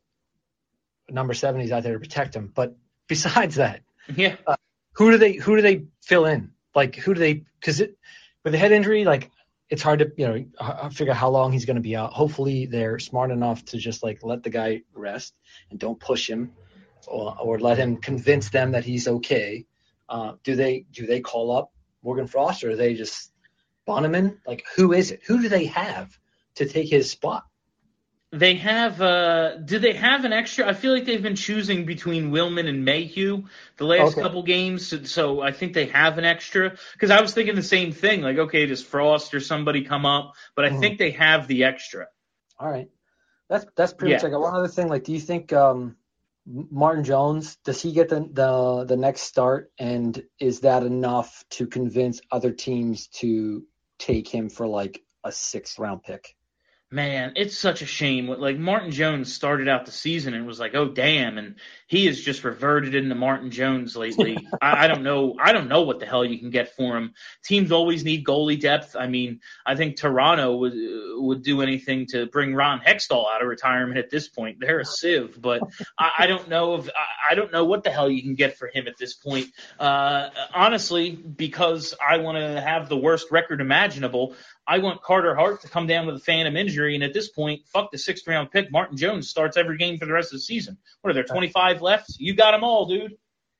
S14: number seventies out there to protect him. But besides that,
S2: yeah,
S14: uh, who do they who do they fill in? Like who do they? Because it with the head injury, like. It's hard to, you know, figure out how long he's going to be out. Hopefully they're smart enough to just like let the guy rest and don't push him or, or let him convince them that he's okay. Uh, do they do they call up Morgan Frost or do they just Bonneman? Like, who is it? Who do they have to take his spot?
S2: They have uh, – do they have an extra – I feel like they've been choosing between Willman and Mayhew the last
S14: Okay.
S2: couple games, so, so I think they have an extra. Because I was thinking the same thing, like, okay, does Frost or somebody come up? But I
S14: Mhm.
S2: think they have the extra.
S14: All right. That's that's pretty much
S2: Yeah.
S14: like one other thing. Like, do you think um, Martin Jones, does he get the, the the next start, and is that enough to convince other teams to take him for like a sixth round pick?
S2: Man, it's such a shame. Like, Martin Jones started out the season and was like, oh, damn, and he has just reverted into Martin Jones lately. I, I don't know. I don't know what the hell you can get for him. Teams always need goalie depth. I mean, I think Toronto would would do anything to bring Ron Hextall out of retirement at this point. They're a sieve, but I, I don't know if I, I don't know what the hell you can get for him at this point. Uh, honestly, because I want to have the worst record imaginable, I want Carter Hart to come down with a phantom injury, and at this point, fuck the sixth round pick. Martin Jones starts every game for the rest of the season. What are there, twenty-five left? You got them all, dude.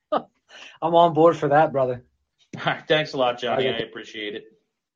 S14: I'm on board for that, brother.
S2: All right, thanks a lot, Johnny. I appreciate it.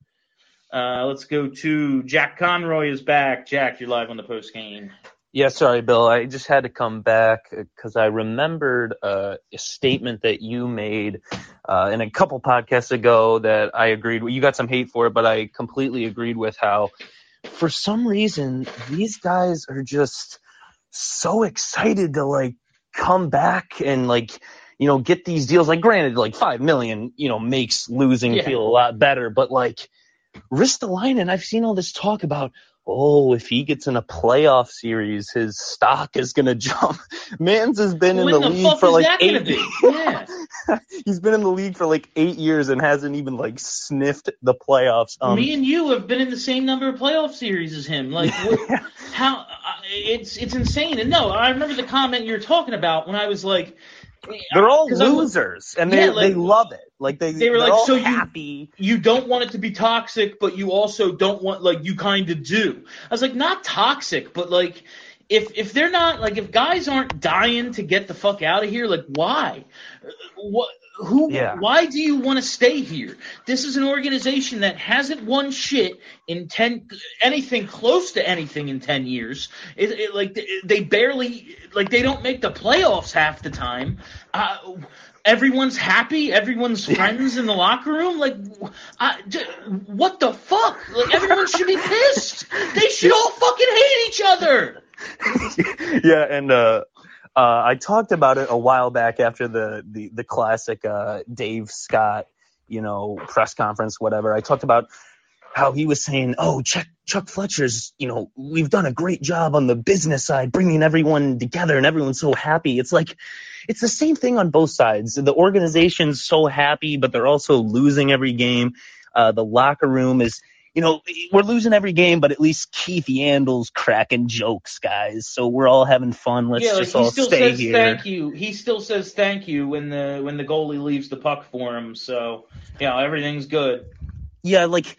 S2: Uh, let's go to Jack Conroy is back. Jack, you're live on the post game.
S15: Yeah, sorry, Bill. I just had to come back because I remembered uh, a statement that you made uh, in a couple podcasts ago that I agreed with. You got some hate for it, but I completely agreed with how, for some reason, these guys are just so excited to, like, come back and, like, you know, get these deals. Like, granted, like, five million dollars, you know, makes losing
S2: Yeah.
S15: feel a lot better, but, like, Ristolainen, I've seen all this talk about, oh, if he gets in a playoff series, his stock is going to jump. Mans has been
S2: When
S15: in the,
S2: the
S15: league
S2: fuck
S15: for
S2: is
S15: like
S2: that gonna
S15: eight
S2: be? Yeah.
S15: He's been in the league for like eight years and hasn't even like sniffed the playoffs. Um,
S2: Me and you have been in the same number of playoff series as him. Like, what, how? Uh, it's it's insane. And no, I remember the comment you were talking about when I was like,
S15: they're all
S2: 'cause I'm-
S15: losers, and they
S2: Yeah, like-
S15: they love it. Like they
S2: They were
S15: they're
S2: like,
S15: all
S2: so
S15: happy.
S2: you you don't want it to be toxic, but you also don't want, like, you kind of do. I was like, not toxic, but like, if if they're not, like, if guys aren't dying to get the fuck out of here, like, why? What? Who?
S15: Yeah.
S2: Why do you want to stay here? This is an organization that hasn't won shit in ten, anything close to anything in ten years. It, it, like they barely, like they don't make the playoffs half the time. Uh, everyone's happy. Everyone's friends in the locker room. Like, I, d- what the fuck? Like, everyone should be pissed. They should all fucking hate each other.
S15: Yeah, and uh, uh, I talked about it a while back after the the, the classic uh, Dave Scott, you know, press conference, whatever. I talked about how he was saying, oh, Chuck, Chuck Fletcher's, you know, we've done a great job on the business side, bringing everyone together and everyone's so happy. It's like, it's the same thing on both sides. The organization's so happy, but they're also losing every game. Uh, the locker room is, you know, we're losing every game, but at least Keith Yandel's cracking jokes, guys. So we're all having fun. Let's
S2: yeah, like
S15: just
S2: he
S15: all
S2: still
S15: stay
S2: says
S15: here.
S2: thank you. He still says thank you when the when the goalie leaves the puck for him. So yeah, everything's good.
S15: Yeah, like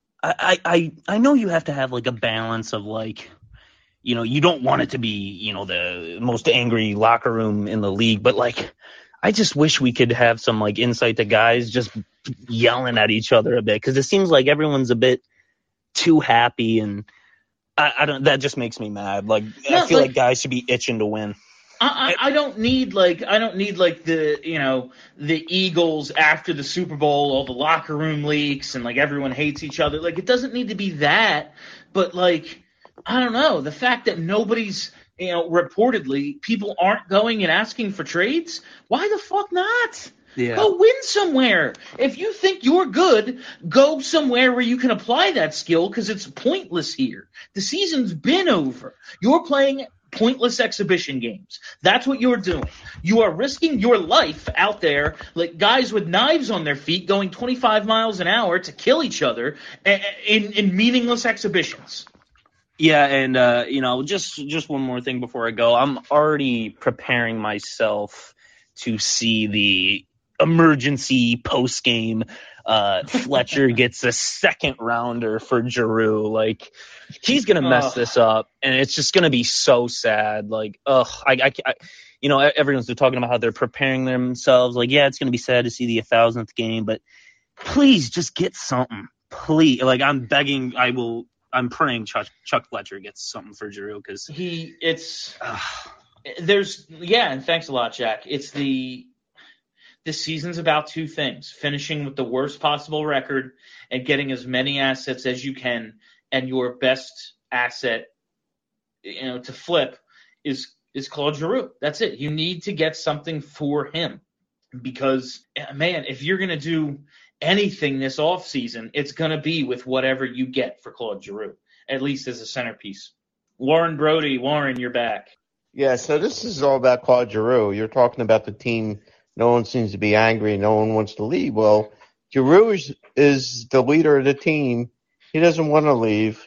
S15: I, I I know you have to have like a balance of like, you know, you don't want it to be, you know, the most angry locker room in the league, but like I just wish we could have some like insight to guys just yelling at each other a bit, because it seems like everyone's a bit too happy, and I, I don't. That just makes me mad. Like
S2: No,
S15: I feel
S2: like-
S15: like guys should be itching to win.
S2: I, I I don't need like I don't need like the you know the Eagles after the Super Bowl, all the locker room leaks and like everyone hates each other. Like it doesn't need to be that, but like I don't know, the fact that nobody's you know reportedly people aren't going and asking for trades. Why the fuck not?
S15: Yeah.
S2: Go win somewhere. If you think you're good, go somewhere where you can apply that skill, because it's pointless here. The season's been over. You're playing pointless exhibition games. That's what you're doing. You are risking your life out there, like guys with knives on their feet going twenty-five miles an hour to kill each other in, in meaningless exhibitions.
S15: Yeah, and uh, you know, just just one more thing before I go. I'm already preparing myself to see the emergency post game. Uh, Fletcher gets a second rounder for Giroux. Like he's gonna mess
S2: Ugh.
S15: this up, and it's just gonna be so sad. Like, ugh, I, I, I you know, everyone's talking about how they're preparing themselves. Like, yeah, it's gonna be sad to see the thousandth game, but please just get something. Please, like I'm begging. I will. I'm praying Chuck, Chuck Fletcher gets something for Giroux, because
S2: he it's there's yeah, and thanks a lot, Jack. It's the this season's about two things: finishing with the worst possible record and getting as many assets as you can. And your best asset, you know, to flip is is Claude Giroux. That's it. You need to get something for him, because man, if you're gonna do anything this offseason, it's going to be with whatever you get for Claude Giroux, at least as a centerpiece. Warren Brody, Warren, you're back.
S3: Yeah, so this is all about Claude Giroux. You're talking about the team. No one seems to be angry. No one wants to leave. Well, Giroux is, is the leader of the team. He doesn't want to leave.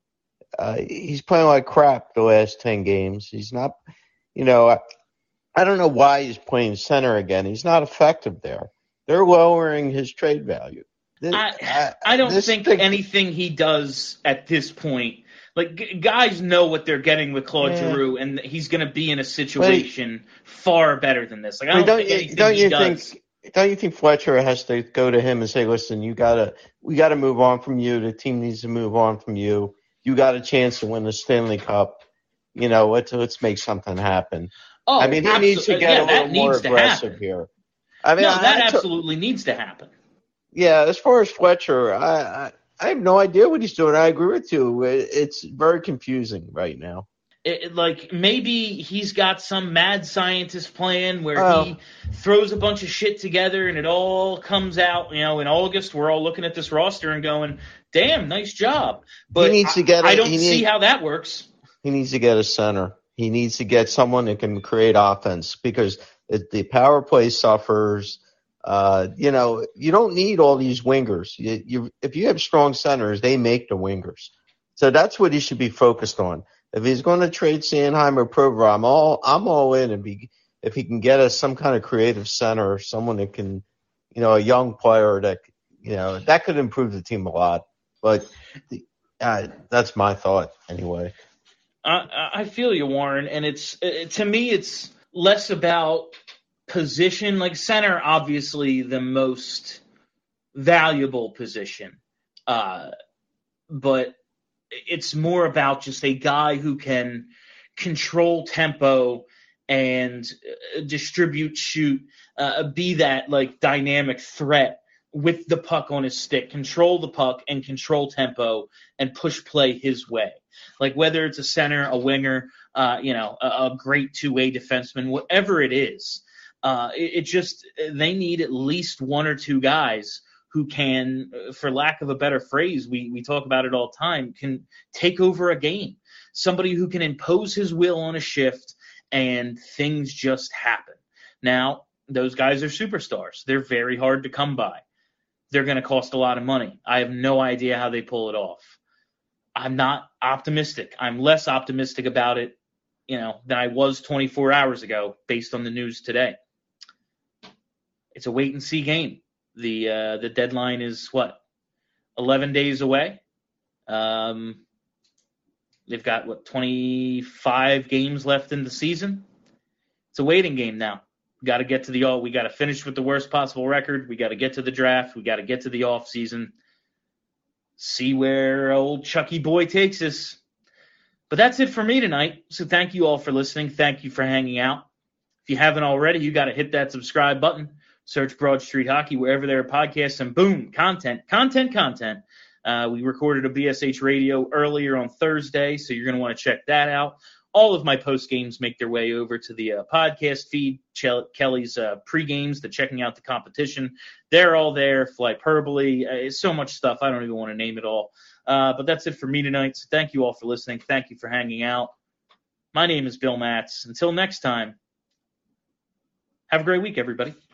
S3: Uh, he's playing like crap the last ten games. He's not, you know, I, I don't know why he's playing center again. He's not effective there. They're lowering his trade value. This,
S2: I,
S3: I,
S2: I don't
S3: this
S2: think
S3: thing,
S2: anything he does at this point, like g- guys know what they're getting with Claude
S3: Yeah.
S2: Giroux, and he's going to be in a situation far better than this. Like I don't,
S3: don't
S2: think
S3: you,
S2: anything
S3: don't
S2: he
S3: you
S2: does.
S3: think? Don't you think Fletcher has to go to him and say, "Listen, you gotta, we gotta move on from you. The team needs to move on from you. You got a chance to win the Stanley Cup. You know, let's let's make something happen."
S2: Oh,
S3: I mean, he
S2: absol-
S3: needs to get
S2: yeah,
S3: a
S2: that
S3: little more
S2: needs to
S3: aggressive
S2: happen.
S3: here. I mean,
S2: no,
S3: I,
S2: that
S3: I t-
S2: absolutely needs to happen.
S3: yeah. As far as Fletcher, I, I I have no idea what he's doing. I agree with you. It, it's very confusing right now.
S2: It, it- like maybe he's got some mad scientist plan where
S3: Oh.
S2: he throws a bunch of shit together and it all comes out. You know, in August we're all looking at this roster and going, "Damn, nice job." But
S3: He needs to
S2: I-
S3: get a-
S2: I don't
S3: he
S2: see
S3: need-
S2: how that works.
S3: He needs to get a center. He needs to get someone that can create offense, because it, the power play suffers. Uh, you know, you don't need all these wingers. You, you, if you have strong centers, they make the wingers. So that's what he should be focused on. If he's going to trade Sanheim or Provorov, I'm all I'm all in. And be if he can get us some kind of creative center, or someone that can, you know, a young player that, you know, that could improve the team a lot. But uh, that's my thought anyway.
S2: I, I feel you, Warren, and it's it, to me it's less about position. Like center, obviously the most valuable position, uh, but it's more about just a guy who can control tempo and uh, distribute, shoot, uh, be that like dynamic threat with the puck on his stick, control the puck and control tempo and push play his way. Like whether it's a center, a winger, uh, you know, a, a great two-way defenseman, whatever it is, uh, it, it just they need at least one or two guys who can, for lack of a better phrase, we we talk about it all the time, can take over a game. Somebody who can impose his will on a shift and things just happen. Now, those guys are superstars. They're very hard to come by. they're going to cost a lot of money. I have no idea how they pull it off. I'm not optimistic. I'm less optimistic about it, you know, than I was twenty-four hours ago based on the news today. It's a wait and see game. The uh, the deadline is what, eleven days away. Um, they've got what, twenty-five games left in the season. It's a waiting game now. We got to get to the all. We got to finish with the worst possible record. We got to get to the draft. We got to get to the off season. See where old Chucky boy takes us. But that's it for me tonight. So thank you all for listening. Thank you for hanging out. If you haven't already, you got to hit that subscribe button. Search Broad Street Hockey wherever there are podcasts, and boom, content, content, content. Uh, we recorded a B S H radio earlier on Thursday, so you're going to want to check that out. All of my post games make their way over to the uh, podcast feed. Ch- Kelly's uh, pre games, the checking out the competition, they're all there. Flyperbole, uh, so much stuff. I don't even want to name it all. Uh, but that's it for me tonight. So thank you all for listening. Thank you for hanging out. My name is Bill Matz. Until next time, have a great week, everybody.